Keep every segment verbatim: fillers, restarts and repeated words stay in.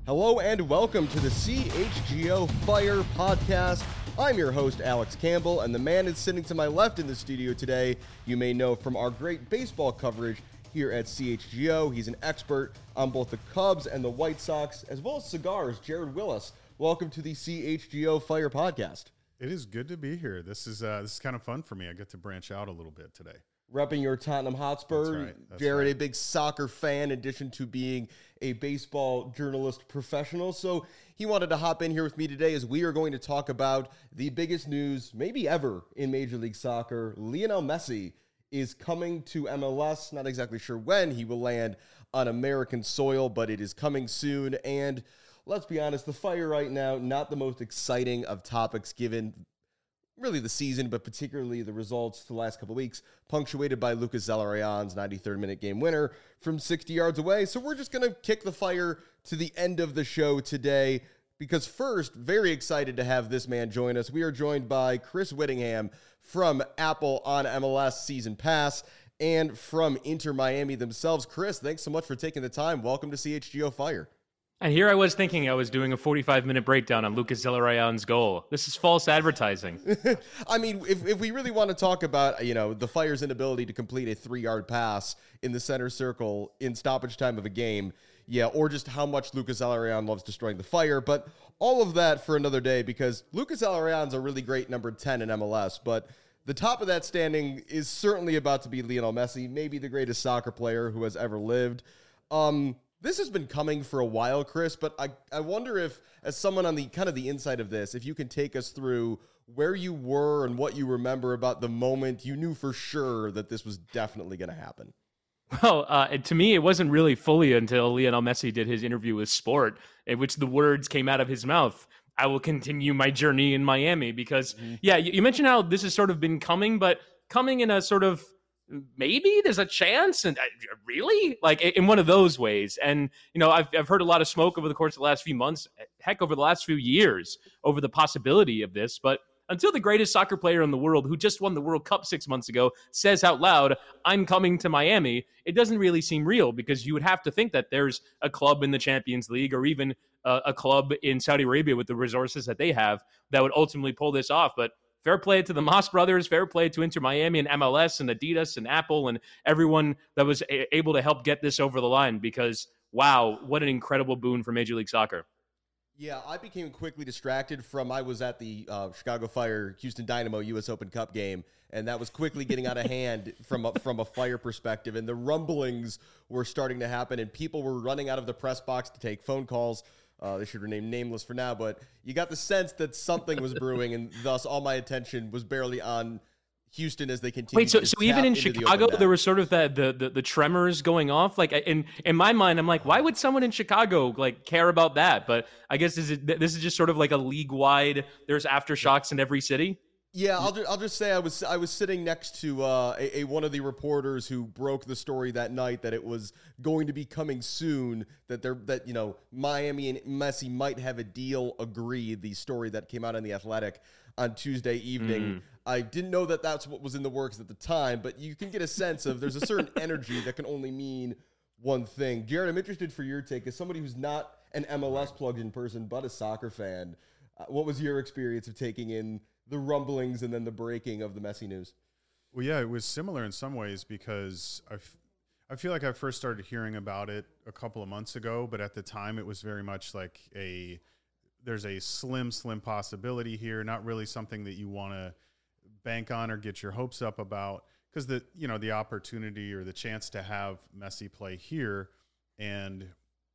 Hello and welcome to the C H G O Fire Podcast. I'm your host, Alex Campbell, and the man is sitting to my left in the studio today. You may know from our great baseball coverage here at C H G O. He's an expert on both the Cubs and the White Sox, as well as cigars. Jared Willis, welcome to the C H G O Fire Podcast. It is good to be here. This is uh, this is kind of fun for me. I get to branch out a little bit today. Repping your Tottenham Hotspur. That's right. That's Jared, right. a big soccer fan, in addition to being a baseball journalist professional. So he wanted to hop in here with me today as we are going to talk about the biggest news maybe ever in Major League Soccer. Lionel Messi is coming to M L S. Not exactly sure when he will land on American soil, but it is coming soon. And let's be honest, the Fire right now, not the most exciting of topics given really the season, but particularly the results the last couple of weeks, punctuated by Lucas Zelarayán's ninety-third minute game winner from sixty yards away. So we're just going to kick the Fire to the end of the show today, because first, very excited to have this man join us. We are joined by Chris Whittingham from Apple on M L S Season Pass and from Inter Miami themselves. Chris, thanks so much for taking the time. Welcome to C H G O Fire. And here I was thinking I was doing a forty-five minute breakdown on Lucas Zelarayán's goal. This is false advertising. I mean, if, if we really want to talk about, you know, the Fire's inability to complete a three-yard pass in the center circle in stoppage time of a game, yeah, or just how much Lucas Zelarayán loves destroying the Fire, but all of that for another day, because Lucas Zelarayán's a really great number ten in M L S, but the top of that standing is certainly about to be Lionel Messi, maybe the greatest soccer player who has ever lived. Um... This has been coming for a while, Chris, but I, I wonder if, as someone on the kind of the inside of this, if you can take us through where you were and what you remember about the moment you knew for sure that this was definitely going to happen. Well, uh, to me, it wasn't really fully until Lionel Messi did his interview with Sport, in which the words came out of his mouth, "I will continue my journey in Miami," because, mm-hmm. yeah, you, you mentioned how this has sort of been coming, but coming in a sort of maybe there's a chance, and uh, really, like in one of those ways. And you know, I've I've heard a lot of smoke over the course of the last few months, heck, over the last few years, over the possibility of this. But until the greatest soccer player in the world, who just won the World Cup six months ago, says out loud, "I'm coming to Miami," it doesn't really seem real, because you would have to think that there's a club in the Champions League, or even a, a club in Saudi Arabia with the resources that they have, that would ultimately pull this off. But fair play to the Moss brothers, fair play to Inter Miami and M L S and Adidas and Apple and everyone that was a- able to help get this over the line, because, wow, what an incredible boon for Major League Soccer. Yeah, I became quickly distracted from, I was at the uh, Chicago Fire Houston Dynamo U S Open Cup game, and that was quickly getting out of hand from a, from a Fire perspective, and the rumblings were starting to happen, and people were running out of the press box to take phone calls. Uh, they should remain nameless for now, but you got the sense that something was brewing, and thus all my attention was barely on Houston as they continued. Wait, so to so even in into the Chicago, open there was sort of that the, the the tremors going off. Like in in my mind, I'm like, why would someone in Chicago like care about that? But I guess is it, this is just sort of like a league wide. There's aftershocks in every city. Yeah, I'll just, I'll just say I was I was sitting next to uh, a, a one of the reporters who broke the story that night that it was going to be coming soon, that they're that you know Miami and Messi might have a deal agreed. The story that came out on The Athletic on Tuesday evening. Mm. I didn't know that that's what was in the works at the time, but you can get a sense of there's a certain energy that can only mean one thing. Jared, I'm interested for your take as somebody who's not an M L S plugged-in person but a soccer fan. Uh, what was your experience of taking in the rumblings and then the breaking of the Messi news? Well, yeah, it was similar in some ways, because I, f- I feel like I first started hearing about it a couple of months ago, but at the time it was very much like a, there's a slim, slim possibility here, not really something that you want to bank on or get your hopes up about, because the, you know, the opportunity or the chance to have Messi play here and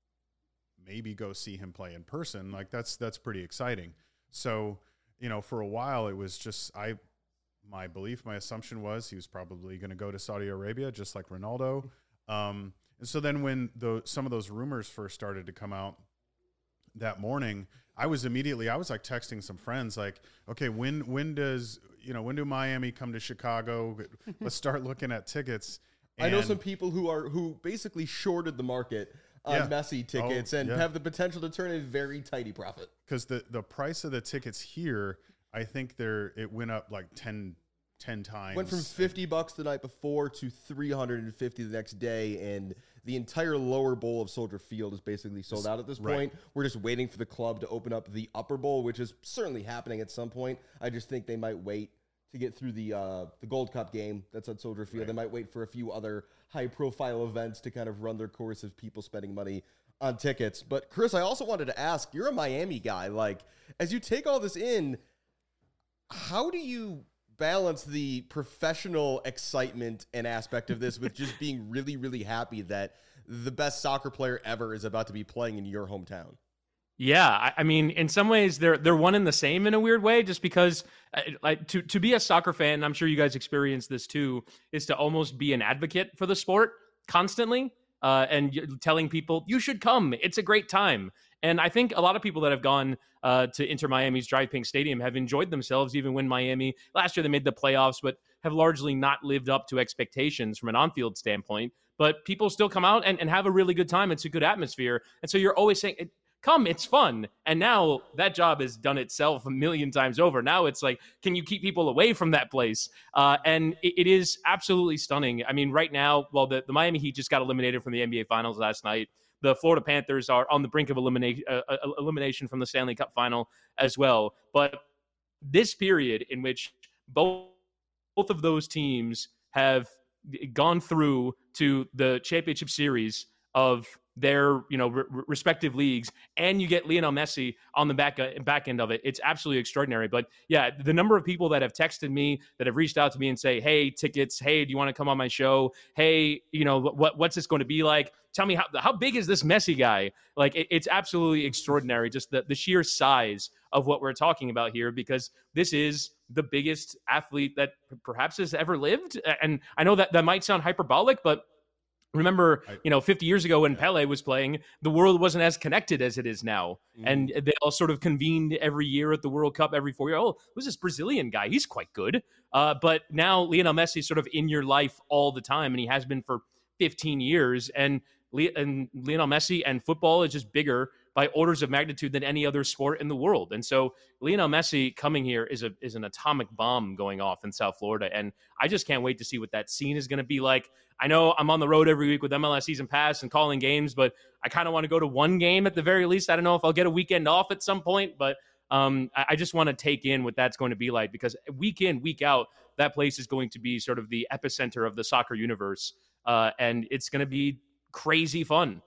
maybe go see him play in person, like that's, that's pretty exciting. So, you know, for a while it was just, I, my belief, my assumption was he was probably going to go to Saudi Arabia, just like Ronaldo. Um, and so then when the, some of those rumors first started to come out that morning, I was immediately, I was like texting some friends like, okay, when, when does, you know, when do Miami come to Chicago? Let's start looking at tickets. And I know some people who are, who basically shorted the market on yeah. Messi tickets oh, and yeah. have the potential to turn a very tidy profit. Because the, the price of the tickets here, I think they're, it went up like ten ten times. Went from fifty bucks the night before to three hundred fifty the next day, and the entire lower bowl of Soldier Field is basically sold out at this Right. point. We're just waiting for the club to open up the upper bowl, which is certainly happening at some point. I just think they might wait to get through the uh, the Gold Cup game that's at Soldier Field. Right. They might wait for a few other high-profile events to kind of run their course of people spending money on tickets. But Chris, I also wanted to ask, you're a Miami guy. Like, as you take all this in, how do you balance the professional excitement and aspect of this with just being really, really happy that the best soccer player ever is about to be playing in your hometown? Yeah, I, I mean, in some ways, they're they're one and the same in a weird way. Just because, uh, like, to to be a soccer fan, and I'm sure you guys experience this too, is to almost be an advocate for the sport constantly, uh, and you're telling people you should come. It's a great time, and I think a lot of people that have gone uh, to Inter Miami's Drive Pink Stadium have enjoyed themselves, even when Miami last year they made the playoffs, but have largely not lived up to expectations from an on-field standpoint. But people still come out and, and have a really good time. It's a good atmosphere, and so you're always saying, come, it's fun. And now that job has done itself a million times over. Now it's like, can you keep people away from that place? Uh, and it, it is absolutely stunning. I mean, right now, well, the, the Miami Heat just got eliminated from the N B A Finals last night. The Florida Panthers are on the brink of elimination, uh, uh, elimination from the Stanley Cup Final as well. But this period in which both, both of those teams have gone through to the championship series of their, you know, re- respective leagues, and you get Lionel Messi on the back uh, back end of it. It's absolutely extraordinary. But yeah, the number of people that have texted me, that have reached out to me and say, "Hey, tickets. Hey, do you want to come on my show? Hey, you know, what what's this going to be like? Tell me how how big is this Messi guy?" Like, it, it's absolutely extraordinary. Just the the sheer size of what we're talking about here, because this is the biggest athlete that perhaps has ever lived. And I know that that might sound hyperbolic, but remember, you know, fifty years ago when Pele was playing, the world wasn't as connected as it is now. Mm. And they all sort of convened every year at the World Cup, every four years. Oh, who's this Brazilian guy? He's quite good. Uh, but now Lionel Messi is sort of in your life all the time, and he has been for fifteen years. And, Le- and Lionel Messi and football is just bigger by orders of magnitude than any other sport in the world. And so Lionel Messi coming here is a is an atomic bomb going off in South Florida. And I just can't wait to see what that scene is going to be like. I know I'm on the road every week with M L S Season Pass and calling games, but I kind of want to go to one game at the very least. I don't know if I'll get a weekend off at some point, but um, I, I just want to take in what that's going to be like, because week in, week out, that place is going to be sort of the epicenter of the soccer universe. Uh, and it's going to be crazy fun.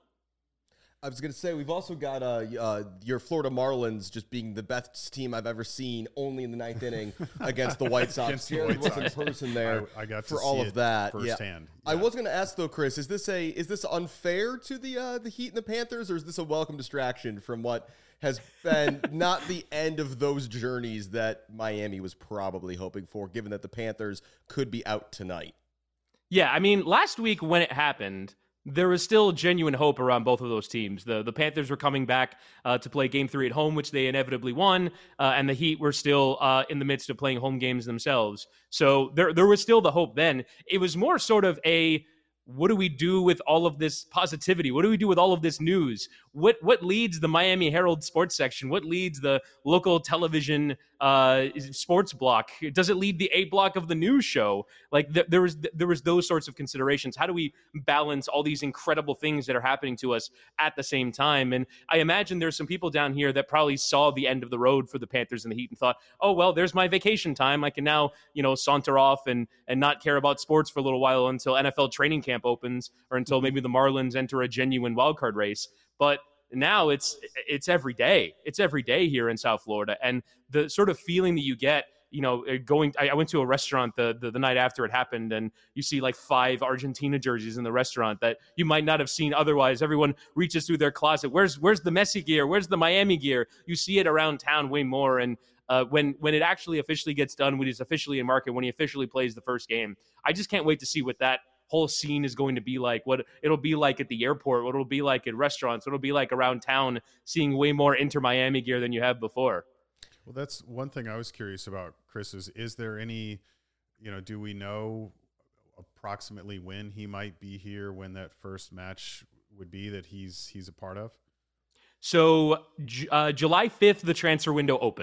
I was going to say, we've also got uh, uh, your Florida Marlins just being the best team I've ever seen, only in the ninth inning against the White Sox. Jared was in person there I, I got for to all see of it that. firsthand. Yeah. Yeah. I was going to ask though, Chris, is this a is this unfair to the uh, the Heat and the Panthers, or is this a welcome distraction from what has been not the end of those journeys that Miami was probably hoping for, given that the Panthers could be out tonight? Yeah, I mean, last week when it happened, there was still genuine hope around both of those teams. The the Panthers were coming back uh, to play game three at home, which they inevitably won, uh, and the Heat were still uh, in the midst of playing home games themselves. So there there was still the hope then. It was more sort of a, what do we do with all of this positivity? What do we do with all of this news? What what leads the Miami Herald sports section? What leads the local television uh, sports block? Does it lead the A block of the news show? Like th- there was th- there was those sorts of considerations. How do we balance all these incredible things that are happening to us at the same time? And I imagine there's some people down here that probably saw the end of the road for the Panthers and the Heat and thought, oh well, there's my vacation time. I can now, you know, saunter off and and not care about sports for a little while until N F L training camp opens, or until maybe the Marlins enter a genuine wildcard race. But now it's it's every day. It's every day here in South Florida. And the sort of feeling that you get, you know, going, I, I went to a restaurant the, the the night after it happened, and you see like five Argentina jerseys in the restaurant that you might not have seen otherwise. Everyone reaches through their closet. Where's where's the Messi gear? Where's the Miami gear? You see it around town way more. And uh, when when it actually officially gets done, when he's officially in market, when he officially plays the first game, I just can't wait to see what that whole scene is going to be like, what it'll be like at the airport, what it'll be like at restaurants, what it'll be like around town, seeing way more Inter Miami gear than you have before. Well, that's one thing I was curious about, Chris, is, is there any, you know, do we know approximately when he might be here, when that first match would be that he's he's a part of? So uh, July fifth, the transfer window opens.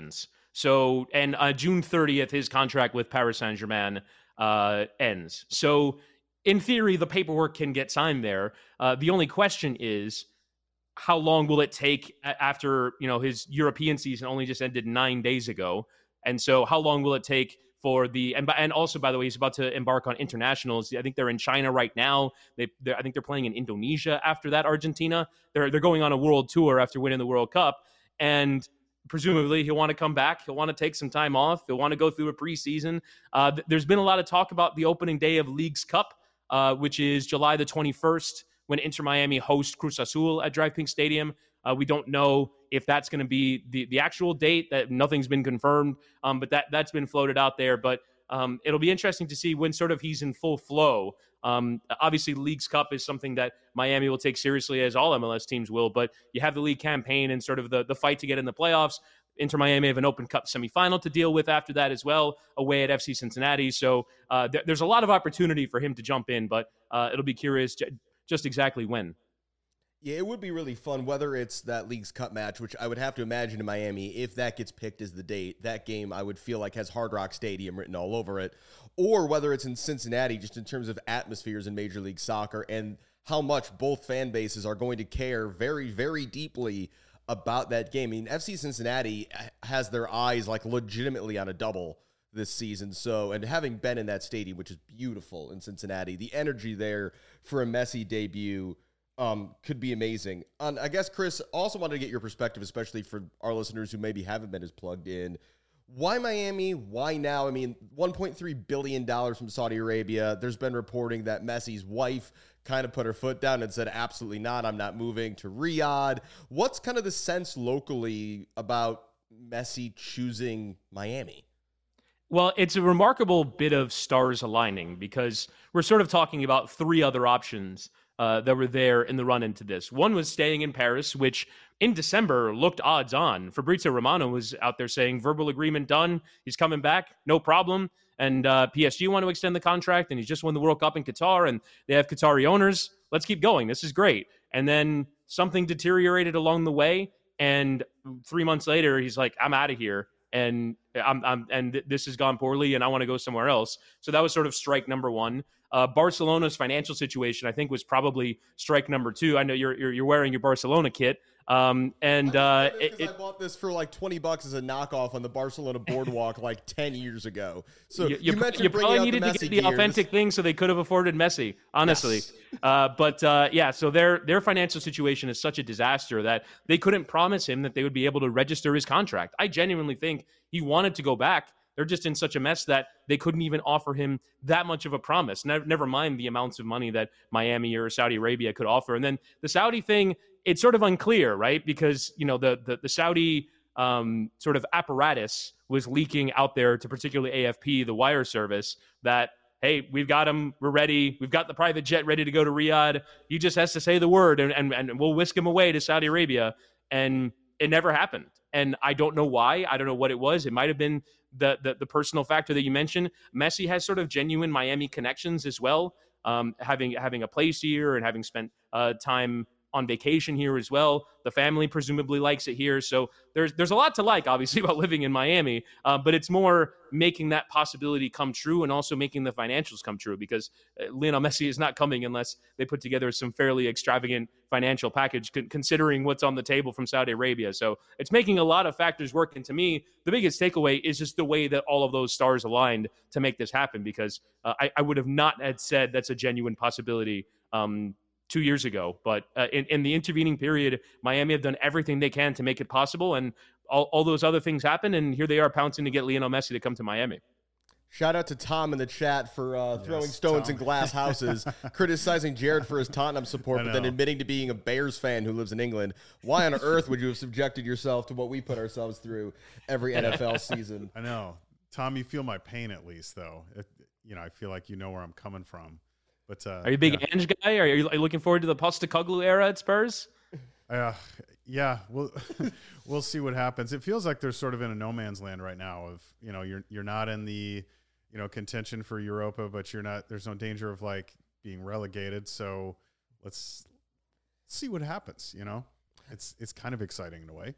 So, and uh, June thirtieth, his contract with Paris Saint-Germain uh, ends. So, in theory, the paperwork can get signed there. Uh, the only question is, how long will it take after, you know, his European season only just ended nine days ago? And so how long will it take for the, and, and also, by the way, he's about to embark on internationals. I think they're in China right now. They, I think they're playing in Indonesia after that, Argentina. They're, they're going on a world tour after winning the World Cup. And presumably he'll want to come back. He'll want to take some time off. He'll want to go through a preseason. Uh, th- there's been a lot of talk about the opening day of Leagues Cup, uh, which is July the twenty-first, when Inter Miami hosts Cruz Azul at Drive Pink Stadium. Uh, we don't know if that's going to be the, the actual date. That nothing's been confirmed, um, but that, that's been floated out there. But um, it'll be interesting to see when sort of he's in full flow. Um, obviously, Leagues Cup is something that Miami will take seriously, as all M L S teams will. But you have the league campaign and sort of the, the fight to get in the playoffs. Inter Miami have an Open Cup semifinal to deal with after that as well, away at F C Cincinnati. So uh, th- there's a lot of opportunity for him to jump in, but uh, it'll be curious to, just exactly when. Yeah, it would be really fun, whether it's that Leagues Cup match, which I would have to imagine in Miami, if that gets picked as the date, that game I would feel like has Hard Rock Stadium written all over it, or whether it's in Cincinnati, just in terms of atmospheres in Major League Soccer and how much both fan bases are going to care very, very deeply about that game. I mean, F C Cincinnati has their eyes like legitimately on a double this season. So, and having been in that stadium, which is beautiful in Cincinnati, the energy there for a Messi debut um, could be amazing. Um, I guess, Chris, also wanted to get your perspective, especially for our listeners who maybe haven't been as plugged in. Why Miami? Why now? I mean, one point three billion dollars from Saudi Arabia. There's been reporting that Messi's wife kind of put her foot down and said, absolutely not, I'm not moving to Riyadh. What's kind of the sense locally about Messi choosing Miami? Well, it's a remarkable bit of stars aligning, because we're sort of talking about three other options uh, that were there in the run into this. One was staying in Paris, which in December looked odds on. Fabrizio Romano was out there saying verbal agreement done. He's coming back, no problem. And uh, P S G want to extend the contract, and he's just won the World Cup in Qatar, and they have Qatari owners. Let's keep going. This is great. And then something deteriorated along the way, and three months later, he's like, I'm out of here. And I'm, I'm and th- this has gone poorly, and I want to go somewhere else. So that was sort of strike number one. Uh, Barcelona's financial situation, I think, was probably strike number two. I know you're you're, you're wearing your Barcelona kit, um, and uh, it, it, I bought this for like twenty bucks as a knockoff on the Barcelona boardwalk like ten years ago. So you, you, you mentioned you probably needed to get the gears. authentic thing so they could have afforded Messi, honestly. Yes. Uh, but uh, yeah, so their their financial situation is such a disaster that they couldn't promise him that they would be able to register his contract. I genuinely think he wanted to go back. They're just in such a mess that they couldn't even offer him that much of a promise. Never, never mind the amounts of money that Miami or Saudi Arabia could offer. And then the Saudi thing, it's sort of unclear, right? Because, you know, the the, the Saudi um, sort of apparatus was leaking out there to particularly A F P, the wire service, that, hey, we've got him, we're ready, we've got the private jet ready to go to Riyadh. He just has to say the word, and, and, and we'll whisk him away to Saudi Arabia. And it never happened. And I don't know why. I don't know what it was. It might have been the, the the personal factor that you mentioned. Messi has sort of genuine Miami connections as well, um, having having a place here and having spent uh, time on vacation here as well. The family presumably likes it here. So there's there's a lot to like, obviously, about living in Miami, uh, but it's more making that possibility come true and also making the financials come true, because uh, Lionel Messi is not coming unless they put together some fairly extravagant financial package, con- considering what's on the table from Saudi Arabia. So it's making a lot of factors work. And to me, the biggest takeaway is just the way that all of those stars aligned to make this happen, because uh, I, I would have not had said that's a genuine possibility um, two years ago. But uh, in, in the intervening period, Miami have done everything they can to make it possible. And all, all those other things happen. And here they are pouncing to get Lionel Messi to come to Miami. Shout out to Tom in the chat for uh, throwing yes, stones Tom. in glass houses, criticizing Jared for his Tottenham support, but then admitting to being a Bears fan who lives in England. Why on earth would you have subjected yourself to what we put ourselves through every N F L season? I know. Tom, you feel my pain at least, though. It, you know, I feel like you know where I'm coming from. But uh, are you a big yeah. Ange guy? Are you, are you looking forward to the Postecoglou era at Spurs? Uh, yeah, we'll we'll see what happens. It feels like they're sort of in a no man's land right now. Of you know, you're you're not in the you know contention for Europa, but you're not. There's no danger of like being relegated. So let's see what happens. You know, it's it's kind of exciting in a way.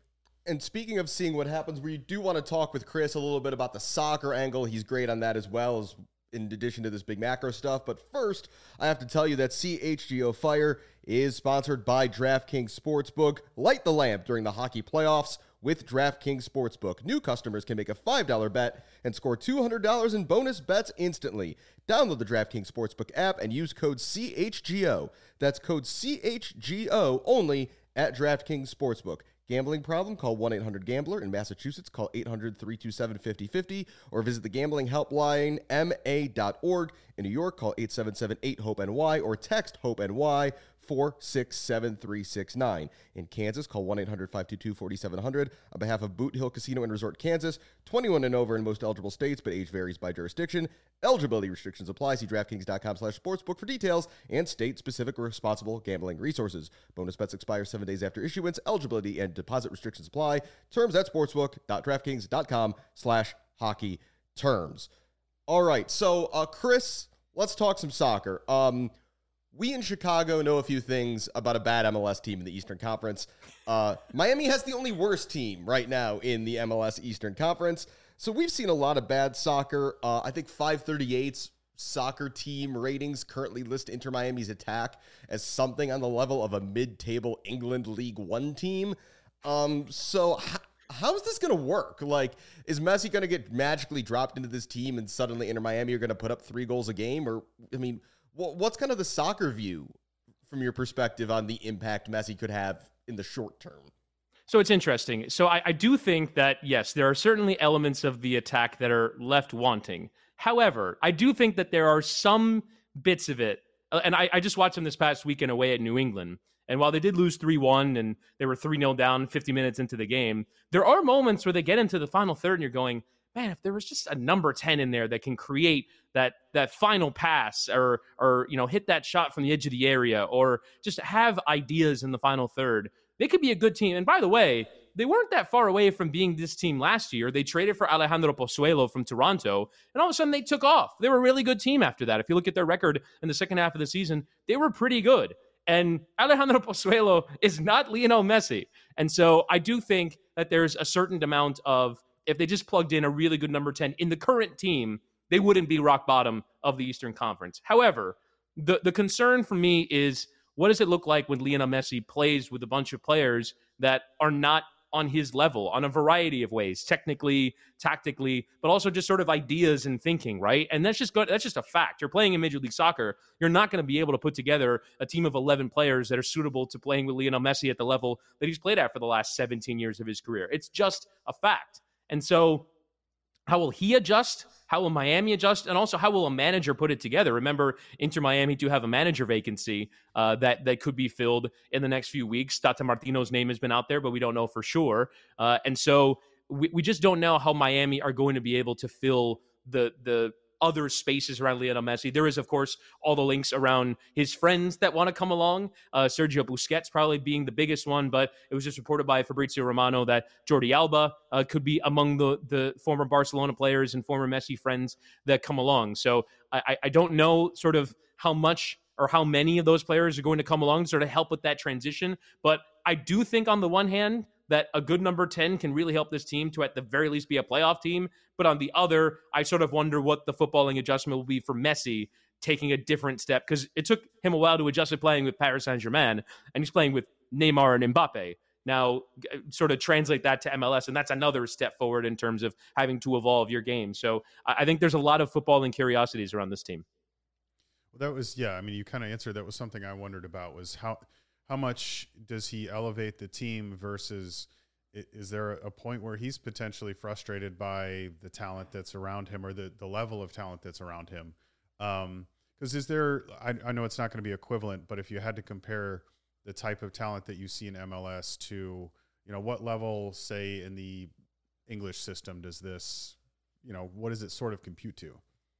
And speaking of seeing what happens, we do want to talk with Chris a little bit about the soccer angle. He's great on that as well, as in addition to this big macro stuff. But first, I have to tell you that C H G O Fire is sponsored by DraftKings Sportsbook. Light the lamp during the hockey playoffs with DraftKings Sportsbook. New customers can make a five dollar bet and score two hundred dollars in bonus bets instantly. Download the DraftKings Sportsbook app and use code C H G O. That's code C H G O only at DraftKings Sportsbook. Gambling problem? Call one eight hundred gambler. In Massachusetts, call eight hundred, three two seven, five oh five oh or visit the gambling helpline M A dot org. In New York, call eight seven seven, eight, hope N Y or text HOPE-N Y four six seven three six nine. In Kansas, call one eight hundred, five two two, four seven zero zero. On behalf of Boot Hill Casino and Resort Kansas, twenty-one and over in most eligible states, but age varies by jurisdiction. Eligibility restrictions apply. See DraftKings.com slash sportsbook for details and state-specific responsible gambling resources. Bonus bets expire seven days after issuance. Eligibility and deposit restrictions apply. Terms at sportsbook.draftkings.com slash hockey terms. All right, so uh, Chris, let's talk some soccer. Um, we in Chicago know a few things about a bad M L S team in the Eastern Conference. Uh, Miami has the only worst team right now in the M L S Eastern Conference. So we've seen a lot of bad soccer. Uh, I think five thirty-eight's soccer team ratings currently list Inter Miami's attack as something on the level of a mid-table England League One team. Um, so h- how is this going to work? Like, is Messi going to get magically dropped into this team and suddenly Inter Miami are going to put up three goals a game? Or, I mean, wh- what's kind of the soccer view from your perspective on the impact Messi could have in the short term? So it's interesting. So I, I do think that, yes, there are certainly elements of the attack that are left wanting. However, I do think that there are some bits of it. Uh, and I, I just watched them this past weekend away at New England. And while they did lose three one and they were three nil down fifty minutes into the game, there are moments where they get into the final third and you're going, man, if there was just a number ten in there that can create that that final pass or, or you know, hit that shot from the edge of the area or just have ideas in the final third, they could be a good team. And by the way, they weren't that far away from being this team last year. They traded for Alejandro Pozuelo from Toronto, and all of a sudden they took off. They were a really good team after that. If you look at their record in the second half of the season, they were pretty good. And Alejandro Pozuelo is not Lionel Messi. And so I do think that there's a certain amount of, if they just plugged in a really good number ten in the current team, they wouldn't be rock bottom of the Eastern Conference. However, the, the concern for me is, what does it look like when Lionel Messi plays with a bunch of players that are not on his level on a variety of ways, technically, tactically, but also just sort of ideas and thinking, right? And that's just good. That's just a fact. You're playing in Major League Soccer. You're not going to be able to put together a team of eleven players that are suitable to playing with Lionel Messi at the level that he's played at for the last seventeen years of his career. It's just a fact. And so how will he adjust? How will Miami adjust? And also, how will a manager put it together? Remember, Inter Miami do have a manager vacancy uh, that, that could be filled in the next few weeks. Tata Martino's name has been out there, but we don't know for sure. Uh, and so we, we just don't know how Miami are going to be able to fill the the other spaces around Lionel Messi. There is, of course, all the links around his friends that want to come along. Uh, Sergio Busquets probably being the biggest one, but it was just reported by Fabrizio Romano that Jordi Alba uh, could be among the, the former Barcelona players and former Messi friends that come along. So I, I don't know sort of how much or how many of those players are going to come along to sort of help with that transition. But I do think on the one hand, that a good number ten can really help this team to at the very least be a playoff team. But on the other, I sort of wonder what the footballing adjustment will be for Messi taking a different step, because it took him a while to adjust to playing with Paris Saint-Germain, and he's playing with Neymar and Mbappe. Now, sort of translate that to M L S, and that's another step forward in terms of having to evolve your game. So I think there's a lot of footballing curiosities around this team. Well, that was, yeah, I mean, you kind of answered. That was something I wondered about, was how how much does he elevate the team versus is there a point where he's potentially frustrated by the talent that's around him or the, the level of talent that's around him? Um, because is there, I, I know it's not going to be equivalent, but if you had to compare the type of talent that you see in M L S to, you know, what level, say, in the English system does this, you know, what does it sort of compute to?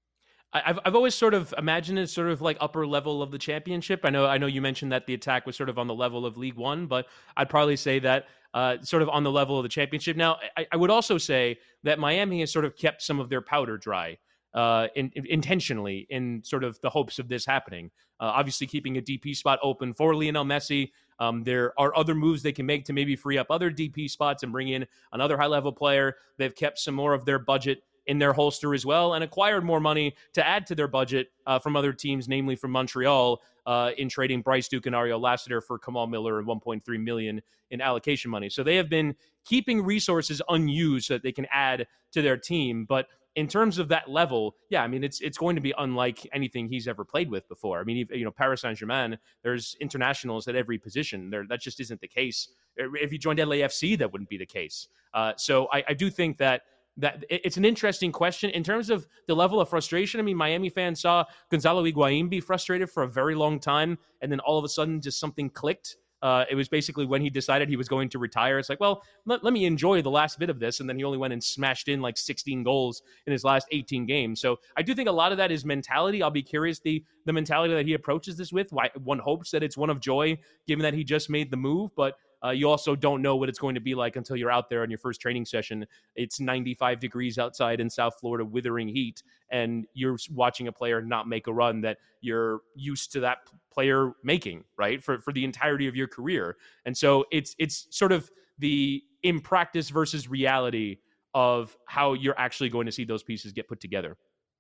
I've I've always sort of imagined it sort of like upper level of the championship. I know I know you mentioned that the attack was sort of on the level of League One, but I'd probably say that uh, sort of on the level of the championship. Now, I, I would also say that Miami has sort of kept some of their powder dry. uh, in, in, intentionally in sort of the hopes of this happening. Uh, obviously, keeping a D P spot open for Lionel Messi. Um, there are other moves they can make to maybe free up other D P spots and bring in another high-level player. They've kept some more of their budget in their holster as well and acquired more money to add to their budget uh, from other teams, namely from Montreal, uh, in trading Bryce Duke and Ario Lassiter for Kamal Miller and one point three million dollars in allocation money. So they have been keeping resources unused so that they can add to their team. But in terms of that level, yeah, I mean, it's it's going to be unlike anything he's ever played with before. I mean, you know, Paris Saint-Germain, there's internationals at every position. There, that just isn't the case. If he joined L A F C, that wouldn't be the case. Uh, so I, I do think that that it's an interesting question in terms of the level of frustration. I mean, Miami fans saw Gonzalo Higuain be frustrated for a very long time, and then all of a sudden, just something clicked. Uh, it was basically when he decided he was going to retire. It's like, well, let, let me enjoy the last bit of this. And then he only went and smashed in like sixteen goals in his last eighteen games. So I do think a lot of that is mentality. I'll be curious the the mentality that he approaches this with. Why one hopes that it's one of joy, given that he just made the move. But uh, you also don't know what it's going to be like until you're out there on your first training session. It's ninety-five degrees outside in South Florida, withering heat, and you're watching a player not make a run that you're used to that player making, right, for for the entirety of your career. And so it's it's sort of the in practice versus reality of how you're actually going to see those pieces get put together.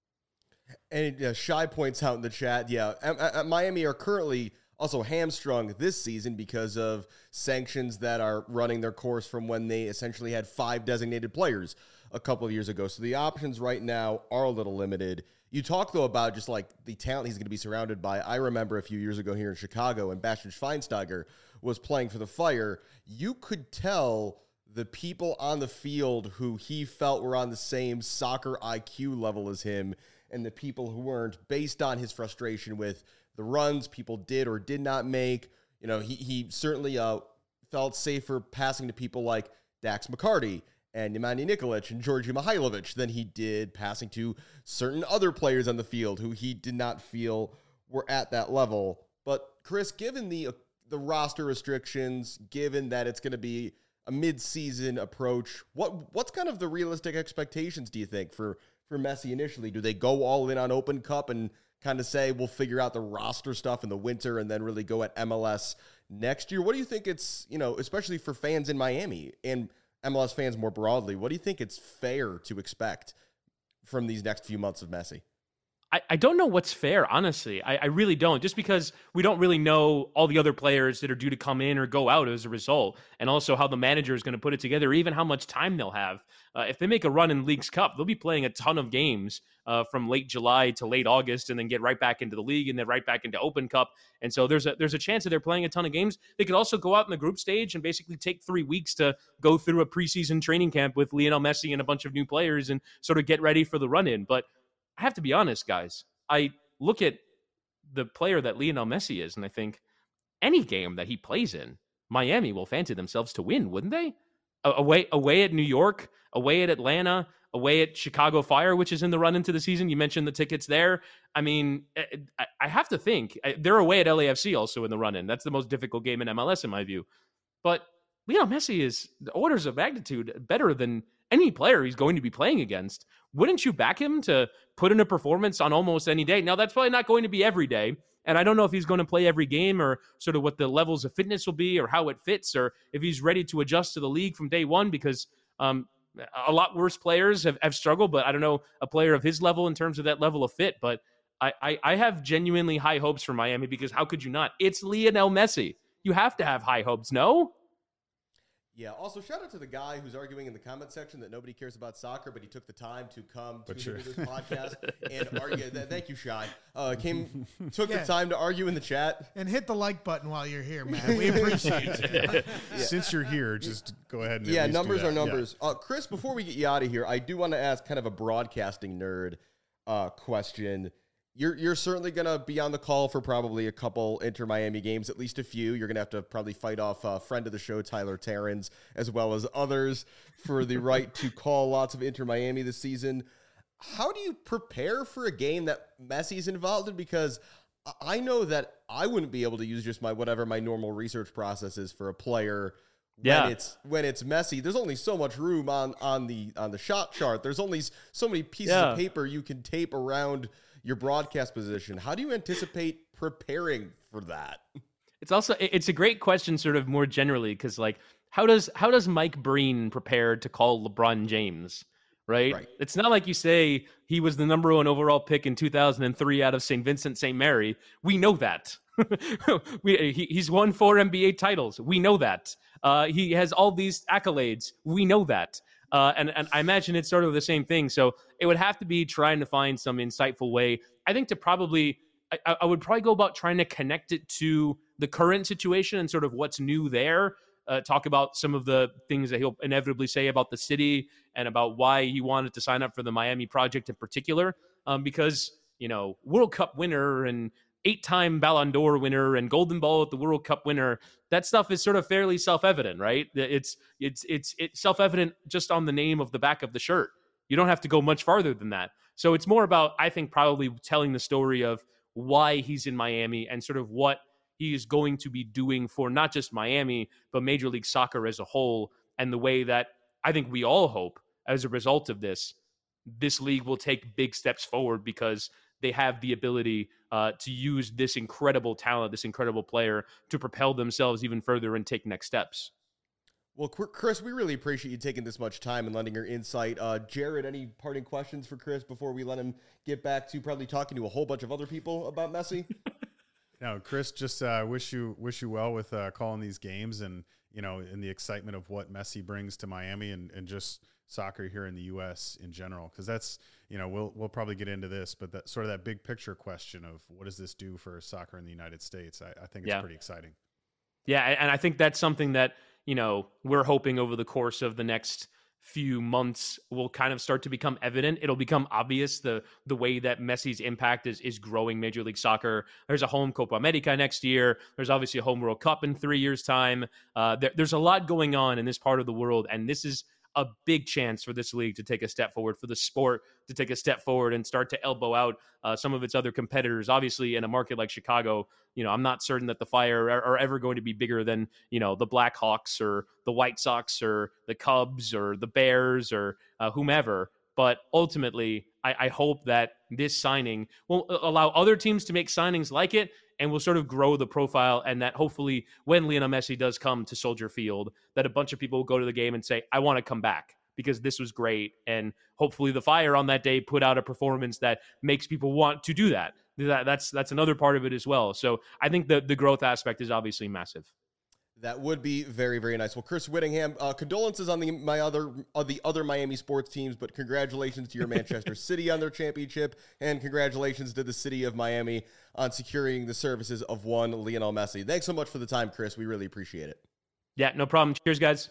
And uh, Shy points out in the chat, yeah, at, at Miami are currently also hamstrung this season because of sanctions that are running their course from when they essentially had five designated players a couple of years ago. So the options right now are a little limited. You talk, though, about just like the talent he's going to be surrounded by. I remember a few years ago here in Chicago, and Bastian Schweinsteiger was playing for the Fire. You could tell the people on the field who he felt were on the same soccer I Q level as him and the people who weren't, based on his frustration with the runs people did or did not make. You know, he, he certainly uh, felt safer passing to people like Dax McCarty and Nemanja Nikolic and Georgi Mihailovic than he did passing to certain other players on the field who he did not feel were at that level. But Chris, given the uh, the roster restrictions, given that it's going to be a mid-season approach, what what's kind of the realistic expectations, do you think, for, for Messi initially? Do they go all in on Open Cup and kind of say, we'll figure out the roster stuff in the winter and then really go at M L S next year? What do you think it's, you know, especially for fans in Miami and M L S fans more broadly, what do you think it's fair to expect from these next few months of Messi? I, I don't know what's fair, honestly. I, I really don't, just because we don't really know all the other players that are due to come in or go out as a result, and also how the manager is going to put it together, even how much time they'll have. Uh, if they make a run in Leagues Cup, they'll be playing a ton of games uh, from late July to late August, and then get right back into the league and then right back into Open Cup. And so there's a there's a chance that they're playing a ton of games. They could also go out in the group stage and basically take three weeks to go through a preseason training camp with Lionel Messi and a bunch of new players and sort of get ready for the run-in. But I have to be honest, guys. I look at the player that Lionel Messi is, and I think any game that he plays in, Miami will fancy themselves to win, wouldn't they? Away, away at New York, away at Atlanta, away at Chicago Fire, which is in the run into the season. You mentioned the tickets there. I mean, I have to think they're away at L A F C also in the run in. That's the most difficult game in M L S in my view. But Lionel Messi is orders of magnitude better than any player he's going to be playing against. Wouldn't you back him to put in a performance on almost any day? Now, that's probably not going to be every day, and I don't know if he's going to play every game or sort of what the levels of fitness will be or how it fits or if he's ready to adjust to the league from day one, because um, a lot worse players have, have struggled, but I don't know a player of his level in terms of that level of fit. But I, I, I have genuinely high hopes for Miami, because how could you not? It's Lionel Messi. You have to have high hopes, no? Yeah, also shout out to the guy who's arguing in the comment section that nobody cares about soccer, but he took the time to come to sure. this podcast and argue. Thank you, Shai. Uh, came, took yeah. the time to argue in the chat. And hit the like button while you're here, man. We appreciate it. Yeah. Since you're here, just go ahead and Yeah, at least numbers do are that. numbers. Yeah. Uh, Chris, before we get you out of here, I do want to ask kind of a broadcasting nerd uh, question. You're you're certainly going to be on the call for probably a couple Inter Miami games, at least a few. You're going to have to probably fight off a friend of the show, Tyler Terrans, as well as others for the right to call lots of Inter Miami this season. How do you prepare for a game that Messi's involved in? Because I know that I wouldn't be able to use just my whatever my normal research process is for a player Yeah. when it's when it's Messi. There's only so much room on on the on the shot chart. There's only so many pieces Yeah. of paper you can tape around your broadcast position. How do you anticipate preparing for that? It's also it- it's a great question, sort of more generally, because like how does how does Mike Breen prepare to call LeBron James? Right? Right. It's not like you say he was the number one overall pick in two thousand three out of Saint Vincent Saint Mary. We know that. we, he, he's won four N B A titles. We know that. Uh, he has all these accolades. We know that. Uh, and, and I imagine it's sort of the same thing. So it would have to be trying to find some insightful way, I think, to probably, I, I would probably go about trying to connect it to the current situation and sort of what's new there. Uh, talk about some of the things that he'll inevitably say about the city and about why he wanted to sign up for the Miami project in particular. Um, because, you know, World Cup winner and eight-time Ballon d'Or winner and Golden Ball at the World Cup winner, that stuff is sort of fairly self-evident, right? It's it's it's it's self-evident just on the name of the back of the shirt. You don't have to go much farther than that. So it's more about, I think, probably telling the story of why he's in Miami and sort of what he is going to be doing for not just Miami, but Major League Soccer as a whole, and the way that I think we all hope as a result of this, this league will take big steps forward because they have the ability uh, to use this incredible talent, this incredible player to propel themselves even further and take next steps. Well, Chris, we really appreciate you taking this much time and lending your insight. Uh, Jared, any parting questions for Chris before we let him get back to probably talking to a whole bunch of other people about Messi? No, Chris, just uh, wish you wish you well with uh, calling these games and, you know, in the excitement of what Messi brings to Miami and, and just soccer here in the U S in general. Because that's, you know, we'll we'll probably get into this, but that sort of that big picture question of what does this do for soccer in the United States? I, I think it's Yeah. pretty exciting. Yeah, and I think that's something that, you know, we're hoping over the course of the next few months will kind of start to become evident. It'll become obvious the the way that Messi's impact is is growing Major League Soccer. There's a home Copa America next year. There's obviously a home World Cup in three years' time. Uh, there, there's a lot going on in this part of the world, and this is a big chance for this league to take a step forward, for the sport to take a step forward and start to elbow out uh, some of its other competitors. Obviously, in a market like Chicago, you know, I'm not certain that the Fire are, are ever going to be bigger than, you know, the Blackhawks or the White Sox or the Cubs or the Bears or uh, whomever. But ultimately, I, I hope that this signing will allow other teams to make signings like it and will sort of grow the profile, and that hopefully when Lionel Messi does come to Soldier Field, that a bunch of people will go to the game and say, I want to come back because this was great. And hopefully the Fire on that day put out a performance that makes people want to do that. that that's that's another part of it as well. So I think the, the growth aspect is obviously massive. That would be very, very nice. Well, Chris Whittingham, uh, condolences on the my other uh, the other Miami sports teams, but congratulations to your Manchester City on their championship, and congratulations to the city of Miami on securing the services of one Lionel Messi. Thanks so much for the time, Chris. We really appreciate it. Yeah, no problem. Cheers, guys.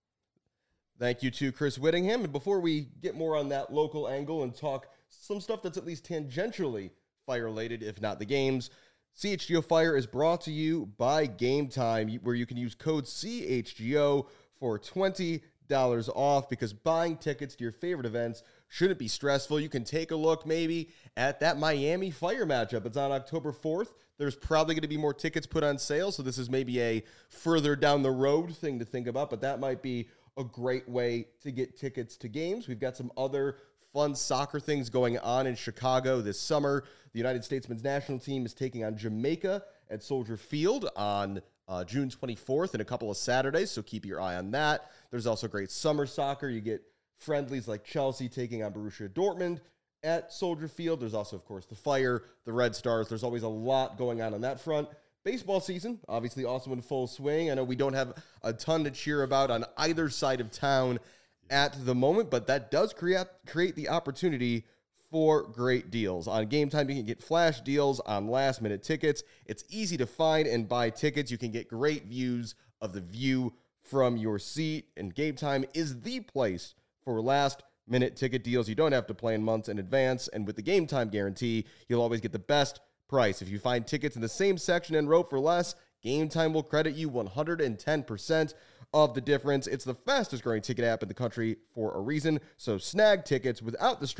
Thank you to Chris Whittingham. And before we get more on that local angle and talk some stuff that's at least tangentially Fire-related, if not the games, C H G O Fire is brought to you by Game Time, where you can use code C H G O for twenty dollars off, because buying tickets to your favorite events shouldn't be stressful. You can take a look maybe at that Miami Fire matchup. It's on October fourth. There's probably going to be more tickets put on sale, so this is maybe a further down the road thing to think about, but that might be a great way to get tickets to games. We've got some other fun soccer things going on in Chicago this summer. The United States men's national team is taking on Jamaica at Soldier Field on uh, June twenty-fourth in a couple of Saturdays, so keep your eye on that. There's also great summer soccer. You get friendlies like Chelsea taking on Borussia Dortmund at Soldier Field. There's also, of course, the Fire, the Red Stars. There's always a lot going on on that front. Baseball season, obviously also in full swing. I know we don't have a ton to cheer about on either side of town at the moment, but that does create create the opportunity for great deals. On Game Time, you can get flash deals on last-minute tickets. It's easy to find and buy tickets. You can get great views of the view from your seat, and Game Time is the place for last-minute ticket deals. You don't have to plan months in advance, and with the Game Time guarantee, you'll always get the best price. If you find tickets in the same section and row for less, Game Time will credit you one hundred ten percent of the difference. It's the fastest growing ticket app in the country for a reason. So snag tickets without the stress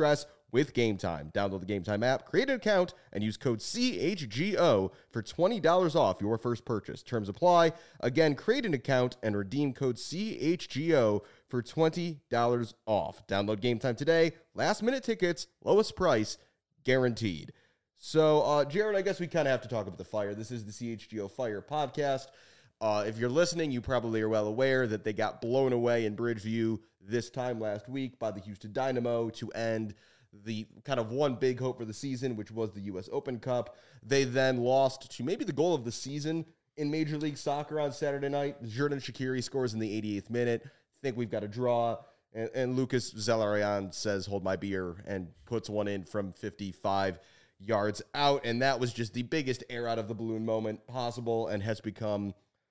with Game Time. Download the Game Time app, create an account, and use code C H G O for twenty dollars off your first purchase. Terms apply. Again, create an account and redeem code C H G O for twenty dollars off. Download Game Time today. Last minute tickets, lowest price, guaranteed. So, uh, Jared, I guess we kind of have to talk about the Fire. This is the C H G O Fire podcast. Uh, if you're listening, you probably are well aware that they got blown away in Bridgeview this time last week by the Houston Dynamo to end the kind of one big hope for the season, which was the U S Open Cup. They then lost to maybe the goal of the season in Major League Soccer on Saturday night. Xherdan Shaqiri scores in the eighty-eighth minute. Think we've got a draw. And, and Lucas Zelarayan says, hold my beer, and puts one in from fifty-five yards out. And that was just the biggest air out of the balloon moment possible and has become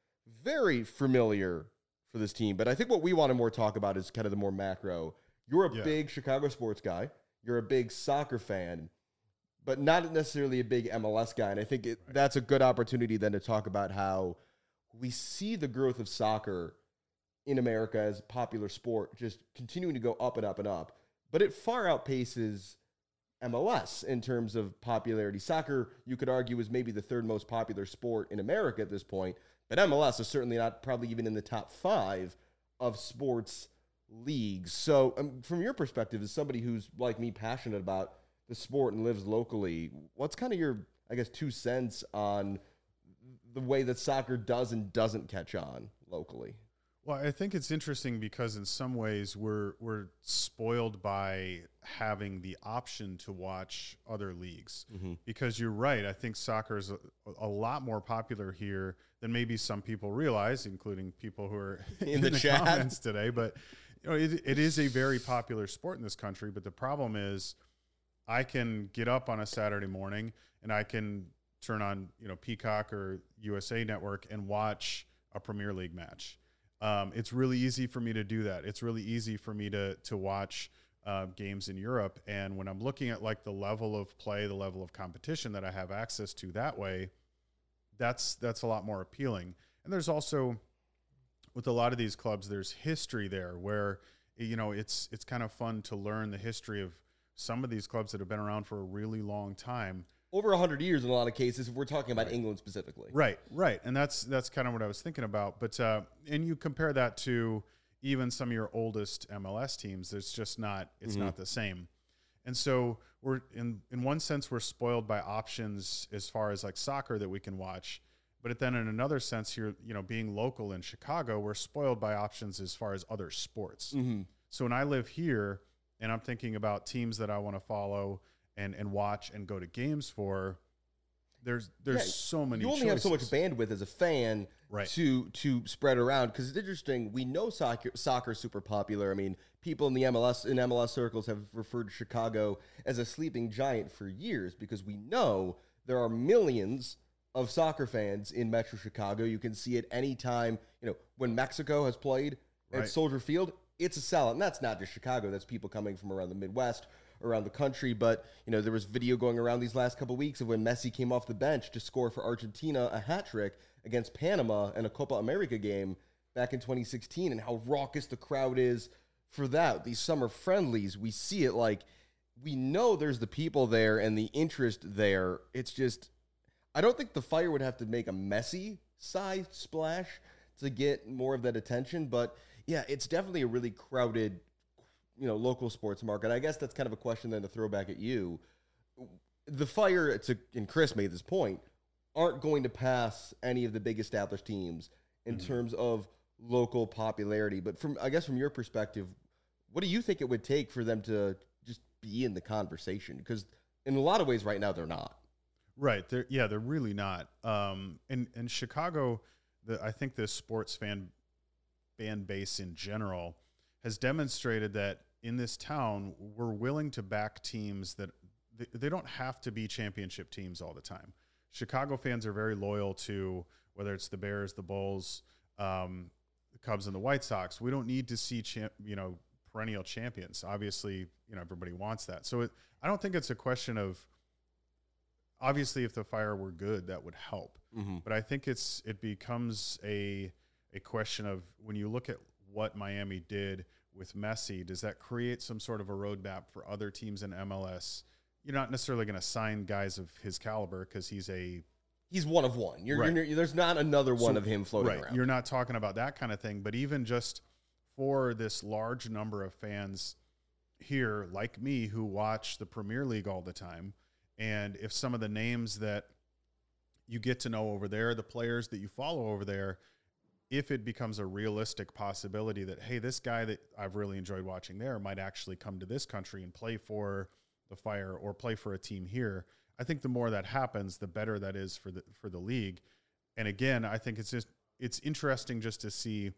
very familiar for this team. But I think what we want to more talk about is kind of the more macro. You're a Yeah. big Chicago sports guy. You're a big soccer fan, but not necessarily a big M L S guy. And I think it, that's a good opportunity then to talk about how we see the growth of soccer in America as a popular sport just continuing to go up and up and up. But it far outpaces M L S in terms of popularity. Soccer, you could argue, is maybe the third most popular sport in America at this point. But M L S is certainly not probably even in the top five of sports leagues. So um, from your perspective, as somebody who's like me, passionate about the sport and lives locally, what's kind of your, I guess, two cents on the way that soccer does and doesn't catch on locally? Well, I think it's interesting because in some ways we're we're spoiled by having the option to watch other leagues. Mm-hmm. Because you're right, I think soccer is a, a lot more popular here than maybe some people realize, including people who are In in, the the, chat. comments today. But you know, it, it is a very popular sport in this country. But the problem is, I can get up on a Saturday morning and I can turn on, you know, Peacock or U S A Network and watch a Premier League match. Um, it's really easy for me to do that. It's really easy for me to to watch uh, games in Europe. And when I'm looking at like the level of play, the level of competition that I have access to that way, that's that's a lot more appealing. And there's also, with a lot of these clubs, there's history there where, you know, it's it's kind of fun to learn the history of some of these clubs that have been around for a really long time. Over one hundred years in a lot of cases, if we're talking about England specifically. Right, right. And that's that's kind of what I was thinking about. But uh, and you compare that to even some of your oldest M L S teams, it's just not it's Mm-hmm. not the same. And so we're in in one sense we're spoiled by options as far as like soccer that we can watch. But then in another sense here, you know, being local in Chicago, we're spoiled by options as far as other sports. Mm-hmm. So when I live here and I'm thinking about teams that I want to follow and and watch and go to games for, there's there's Yeah, so many You only choices. have so much bandwidth as a fan Right. to to spread around, because it's interesting. We know soccer soccer is super popular. I mean, people in the M L S in M L S circles have referred to Chicago as a sleeping giant for years, because we know there are millions of soccer fans in Metro Chicago. You can see it anytime. You know, when Mexico has played at Right. Soldier Field, it's a sellout. And that's not just Chicago. That's people coming from around the Midwest, around the country. But, you know, there was video going around these last couple of weeks of when Messi came off the bench to score for Argentina a hat trick against Panama in a Copa America game back in twenty sixteen, and how raucous the crowd is for that. These summer friendlies, we see it, like, we know there's the people there and the interest there. It's just, I don't think the Fire would have to make a Messi sized splash to get more of that attention. But yeah, it's definitely a really crowded, you know, local sports market. I guess that's kind of a question then to throw back at you. The Fire, to, and Chris made this point, aren't going to pass any of the big established teams in Mm-hmm. terms of local popularity. But from, I guess from your perspective, what do you think it would take for them to just be in the conversation? Because in a lot of ways right now they're not. Right. They're, yeah, they're really not. Um, in, in Chicago, the, I think the sports fan fan base in general has demonstrated that in this town, we're willing to back teams that they, they don't have to be championship teams all the time. Chicago fans are very loyal to whether it's the Bears, the Bulls, um, the Cubs, and the White Sox. We don't need to see champ, you know, perennial champions. Obviously, you know, everybody wants that. So it, I don't think it's a question of, obviously, if the Fire were good, that would help. Mm-hmm. But I think it's it becomes a a question of when you look at what Miami did with Messi, does that create some sort of a roadmap for other teams in M L S? You're not necessarily going to sign guys of his caliber because he's a he's one of one. You're, right. you're, there's not another one so, of him floating right. around. You're not talking about that kind of thing, but even just for this large number of fans here, like me, who watch the Premier League all the time, and if some of the names that you get to know over there, the players that you follow over there, if it becomes a realistic possibility that, hey, this guy that I've really enjoyed watching there might actually come to this country and play for the Fire or play for a team here, I think the more that happens, the better that is for the for the league. And again, I think it's just it's interesting just to see,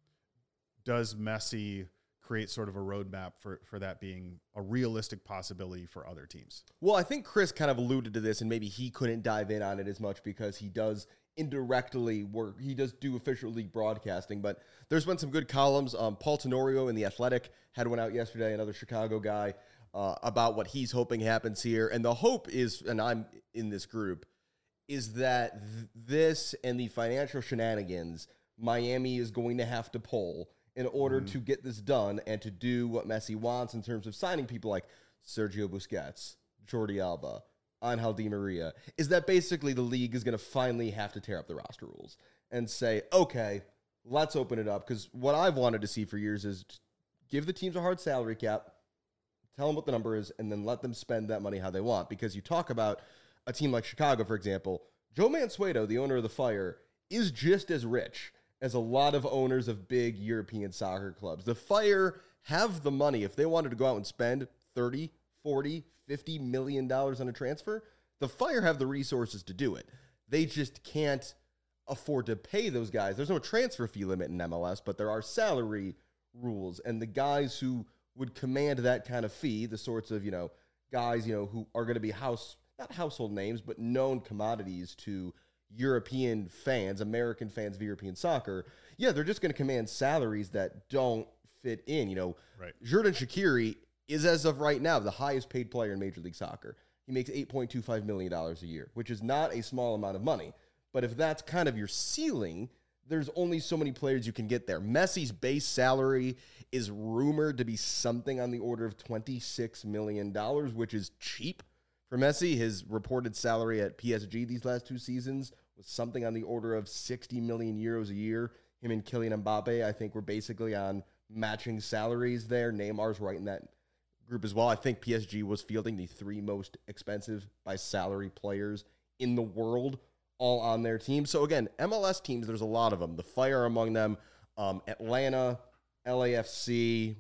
does Messi create sort of a roadmap for, for that being a realistic possibility for other teams? Well, I think Chris kind of alluded to this, and maybe he couldn't dive in on it as much because he does indirectly work. He does do official league broadcasting, but there's been some good columns. Um, Paul Tenorio in The Athletic had one out yesterday, another Chicago guy, uh, about what he's hoping happens here. And the hope is, and I'm in this group, is that th- this and the financial shenanigans Miami is going to have to pull in order mm-hmm. to get this done and to do what Messi wants in terms of signing people like Sergio Busquets, Jordi Alba, Angel Di Maria, is that basically the league is going to finally have to tear up the roster rules and say, okay, let's open it up. Because what I've wanted to see for years is give the teams a hard salary cap, tell them what the number is, and then let them spend that money how they want. Because you talk about a team like Chicago, for example, Joe Mansueto, the owner of the Fire, is just as rich as a lot of owners of big European soccer clubs. The Fire have the money. If they wanted to go out and spend thirty, forty, fifty million dollars on a transfer, the Fire have the resources to do it. They just can't afford to pay those guys. There's no transfer fee limit in M L S, but there are salary rules. And the guys who would command that kind of fee, the sorts of, you know, guys, you know, who are going to be house, not household names, but known commodities to European fans, American fans of European soccer, yeah, they're just going to command salaries that don't fit in. You know, right. Xherdan Shaqiri is, as of right now, the highest paid player in Major League Soccer. He makes eight point two five million dollars a year, which is not a small amount of money. But if that's kind of your ceiling, there's only so many players you can get there. Messi's base salary is rumored to be something on the order of twenty-six million dollars, which is cheap for Messi. His reported salary at P S G these last two seasons was something on the order of sixty million euros a year. Him and Kylian Mbappe, I think, were basically on matching salaries there. Neymar's right in that group as well. I think P S G was fielding the three most expensive by salary players in the world, all on their team. So again, M L S teams, there's a lot of them. The Fire among them, um, Atlanta, L A F C,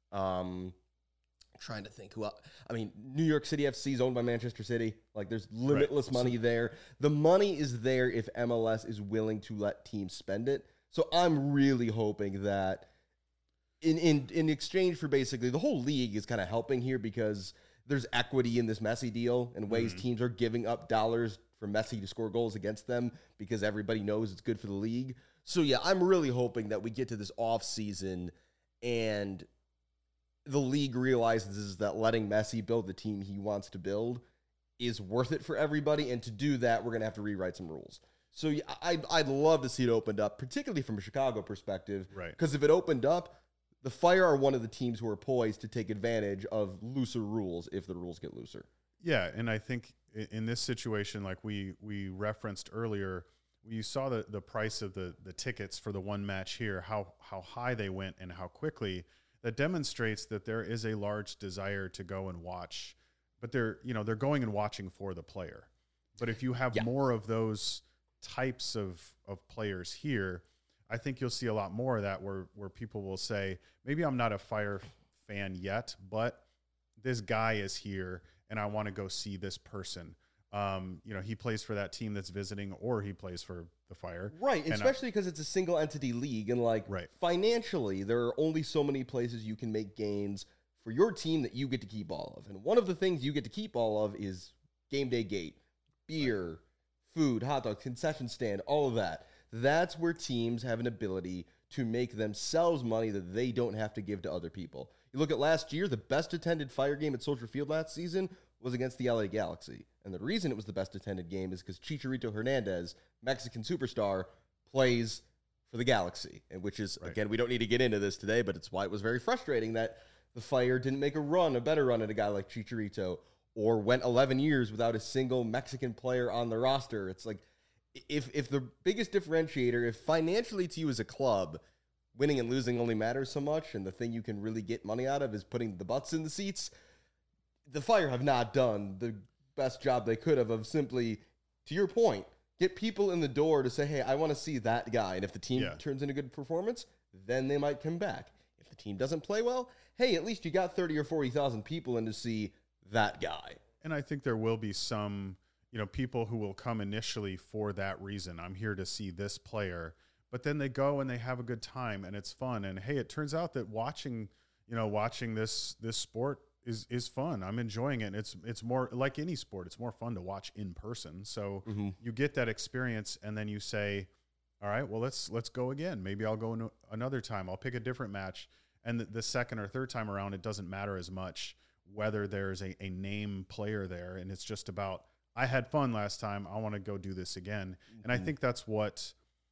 um, trying to think who else. I mean, New York City F C is owned by Manchester City. Like, there's limitless right. money there. The money is there if M L S is willing to let teams spend it. So I'm really hoping that in in in exchange for basically the whole league is kind of helping here because there's equity in this Messi deal and ways mm-hmm. teams are giving up dollars for Messi to score goals against them because everybody knows it's good for the league. So yeah, I'm really hoping that we get to this off season and the league realizes that letting Messi build the team he wants to build is worth it for everybody. And to do that, we're going to have to rewrite some rules. So yeah, I'd, I'd love to see it opened up, particularly from a Chicago perspective. Right. Because if it opened up, the Fire are one of the teams who are poised to take advantage of looser rules if the rules get looser. Yeah, and I think in this situation, like we we referenced earlier, you saw the, the price of the, the tickets for the one match here, how how high they went and how quickly. That demonstrates that there is a large desire to go and watch, but they're you know they're going and watching for the player. But if you have yeah. more of those types of of players here, I think you'll see a lot more of that where where people will say, maybe I'm not a Fire fan yet, but this guy is here and I want to go see this person. Um, you know, he plays for that team that's visiting or he plays for the Fire. Right, and especially because it's a single entity league and like right. financially, there are only so many places you can make gains for your team that you get to keep all of. And one of the things you get to keep all of is game day gate, beer, right. food, hot dog, concession stand, all of that. That's where teams have an ability to make themselves money that they don't have to give to other people. You look at last year, the best attended Fire game at Soldier Field last season was against the L A Galaxy. And the reason it was the best attended game is because Chicharito Hernandez, Mexican superstar, plays for the Galaxy, and which is, Right. again, we don't need to get into this today, but it's why it was very frustrating that the Fire didn't make a run, a better run at a guy like Chicharito, or went eleven years without a single Mexican player on the roster. It's like, if if the biggest differentiator, if financially to you as a club, winning and losing only matters so much, and the thing you can really get money out of is putting the butts in the seats, the Fire have not done the best job they could have of simply, to your point, get people in the door to say, hey, I want to see that guy. And if the team Yeah. turns in a good performance, then they might come back. If the team doesn't play well, hey, at least you got thirty or forty thousand people in to see that guy. And I think there will be some, you know, people who will come initially for that reason. I'm here to see this player, but then they go and they have a good time and it's fun. And hey, it turns out that watching, you know, watching this this sport is is fun. I'm enjoying it. It's it's more like any sport. It's more fun to watch in person. So Mm-hmm. you get that experience, and then you say, all right, well, let's let's go again. Maybe I'll go in another time. I'll pick a different match. And the, the second or third time around, it doesn't matter as much whether there's a, a name player there. And it's just about, I had fun last time. I want to go do this again. Mm-hmm. And I think that's what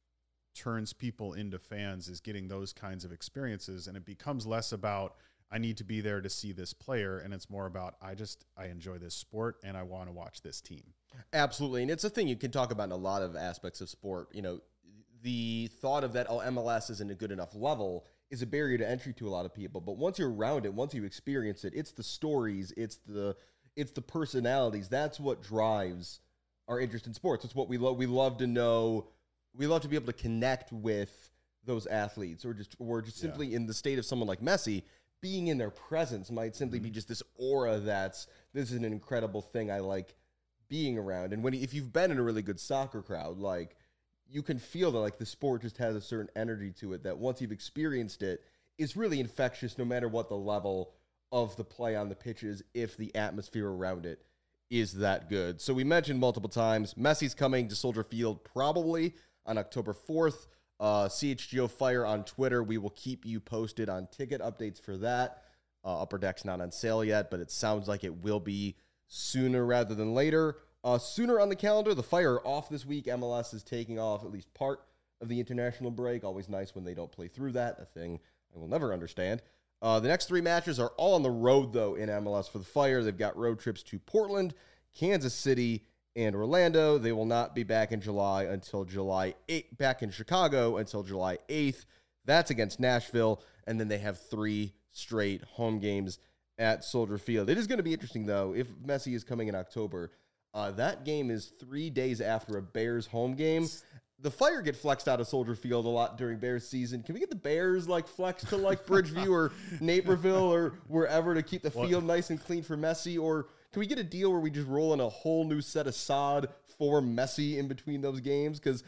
turns people into fans, is getting those kinds of experiences. And it becomes less about, I need to be there to see this player. And it's more about, I just, I enjoy this sport and I want to watch this team. Absolutely. And it's a thing you can talk about in a lot of aspects of sport. You know, the thought of that, oh, M L S isn't a good enough level, is a barrier to entry to a lot of people. But once you're around it, once you experience it, it's the stories, it's the it's the personalities. That's what drives our interest in sports. It's what we love. We love to know. We love to be able to connect with those athletes, or just or just simply Yeah. in the state of someone like Messi. Being in their presence might simply Mm-hmm. be just this aura that's, this is an incredible thing I like being around. And when if you've been in a really good soccer crowd, like, you can feel that like the sport just has a certain energy to it that once you've experienced it, is really infectious no matter what the level of the play on the pitch is, if the atmosphere around it is that good. So we mentioned multiple times, Messi's coming to Soldier Field probably on October fourth. Uh, C H G O Fire on Twitter. We will keep you posted on ticket updates for that. Uh, Upper Deck's not on sale yet, but it sounds like it will be sooner rather than later. Uh, sooner on the calendar, the Fire are off this week. M L S is taking off at least part of the international break. Always nice when they don't play through that, a thing I will never understand. Uh, the next three matches are all on the road, though, in M L S for the Fire. They've got road trips to Portland, Kansas City, and Orlando. They will not be back in July until July eighth, back in Chicago until July eighth. That's against Nashville. And then they have three straight home games at Soldier Field. It is going to be interesting, though, if Messi is coming in October. Uh, that game is three days after a Bears home game. The Fire get flexed out of Soldier Field a lot during Bears season. Can we get the Bears like flexed to like Bridgeview or Naperville or wherever to keep the field nice and clean for Messi? Or can we get a deal where we just roll in a whole new set of sod for Messi in between those games? Because,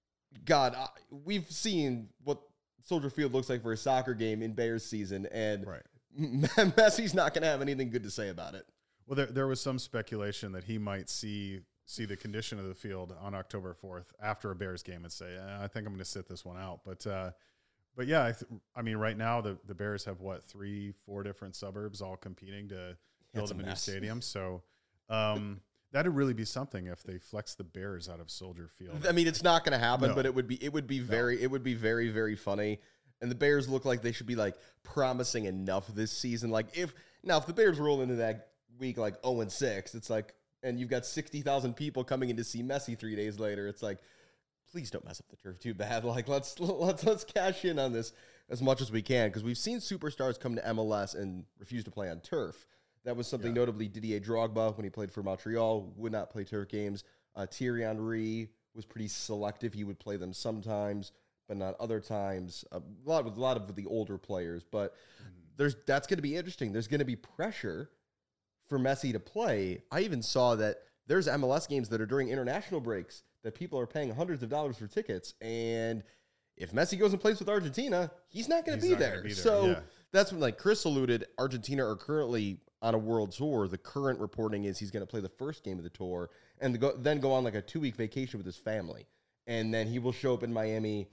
God, I, we've seen what Soldier Field looks like for a soccer game in Bears season, and Right. Messi's not going to have anything good to say about it. Well, there there was some speculation that he might see see the condition of the field on October fourth after a Bears game and say, eh, I think I'm going to sit this one out. But uh, but yeah, I, th- I mean, right now the, the Bears have what, three, four different suburbs all competing to build It's a them a new mess. stadium. So um, that'd really be something if they flex the Bears out of Soldier Field. I mean, it's not going to happen, No. but it would be it would be very it would be very very funny. And the Bears look like they should be like promising enough this season. Like if now if the Bears roll into that week like oh and six, it's like, and you've got sixty thousand people coming in to see Messi three days later. It's like, please don't mess up the turf too bad. Like let's let's let's cash in on this as much as we can, because we've seen superstars come to M L S and refuse to play on turf. That was something Yeah. notably Didier Drogba when he played for Montreal would not play turf games. Uh, Thierry Henry was pretty selective. He would play them sometimes, but not other times. A lot with a lot of the older players, but there's that's going to be interesting. There's going to be pressure for Messi to play. I even saw that there's M L S games that are during international breaks that people are paying hundreds of dollars for tickets, and if Messi goes and plays with Argentina, he's not going to He's be not gonna there. be there, So yeah. that's when, like Chris alluded, Argentina are currently on a world tour. The current reporting is he's going to play the first game of the tour and the go, then go on like a two week vacation with his family, and then he will show up in Miami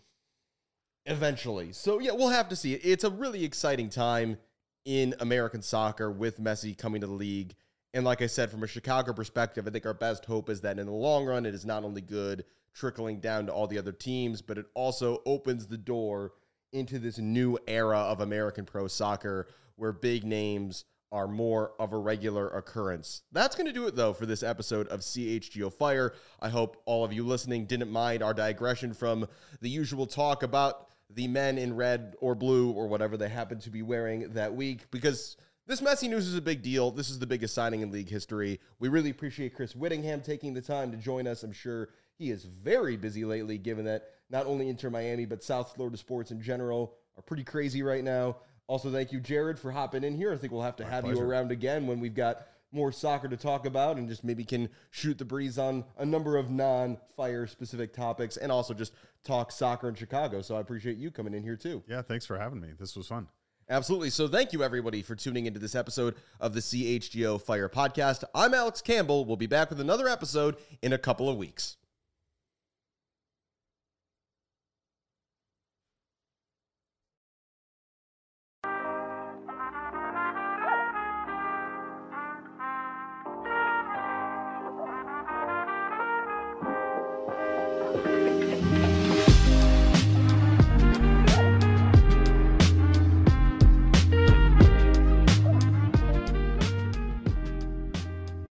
eventually. So yeah, we'll have to see. It's a really exciting time in American soccer with Messi coming to the league. And like I said, from a Chicago perspective, I think our best hope is that in the long run, it is not only good trickling down to all the other teams, but it also opens the door into this new era of American pro soccer where big names are more of a regular occurrence. That's going to do it, though, for this episode of C H G O Fire. I hope all of you listening didn't mind our digression from the usual talk about the men in red or blue or whatever they happen to be wearing that week, because this Messi news is a big deal. This is the biggest signing in league history. We really appreciate Chris Whittingham taking the time to join us. I'm sure he is very busy lately, given that not only Inter Miami, but South Florida sports in general are pretty crazy right now. Also, thank you, Jared, for hopping in here. I think we'll have to My have pleasure. you around again when we've got more soccer to talk about and just maybe can shoot the breeze on a number of non-fire specific topics and also just talk soccer in Chicago. So I appreciate you coming in here too. Yeah, thanks for having me. This was fun. Absolutely. So thank you, everybody, for tuning into this episode of the C H G O Fire Podcast. I'm Alex Campbell. We'll be back with another episode in a couple of weeks.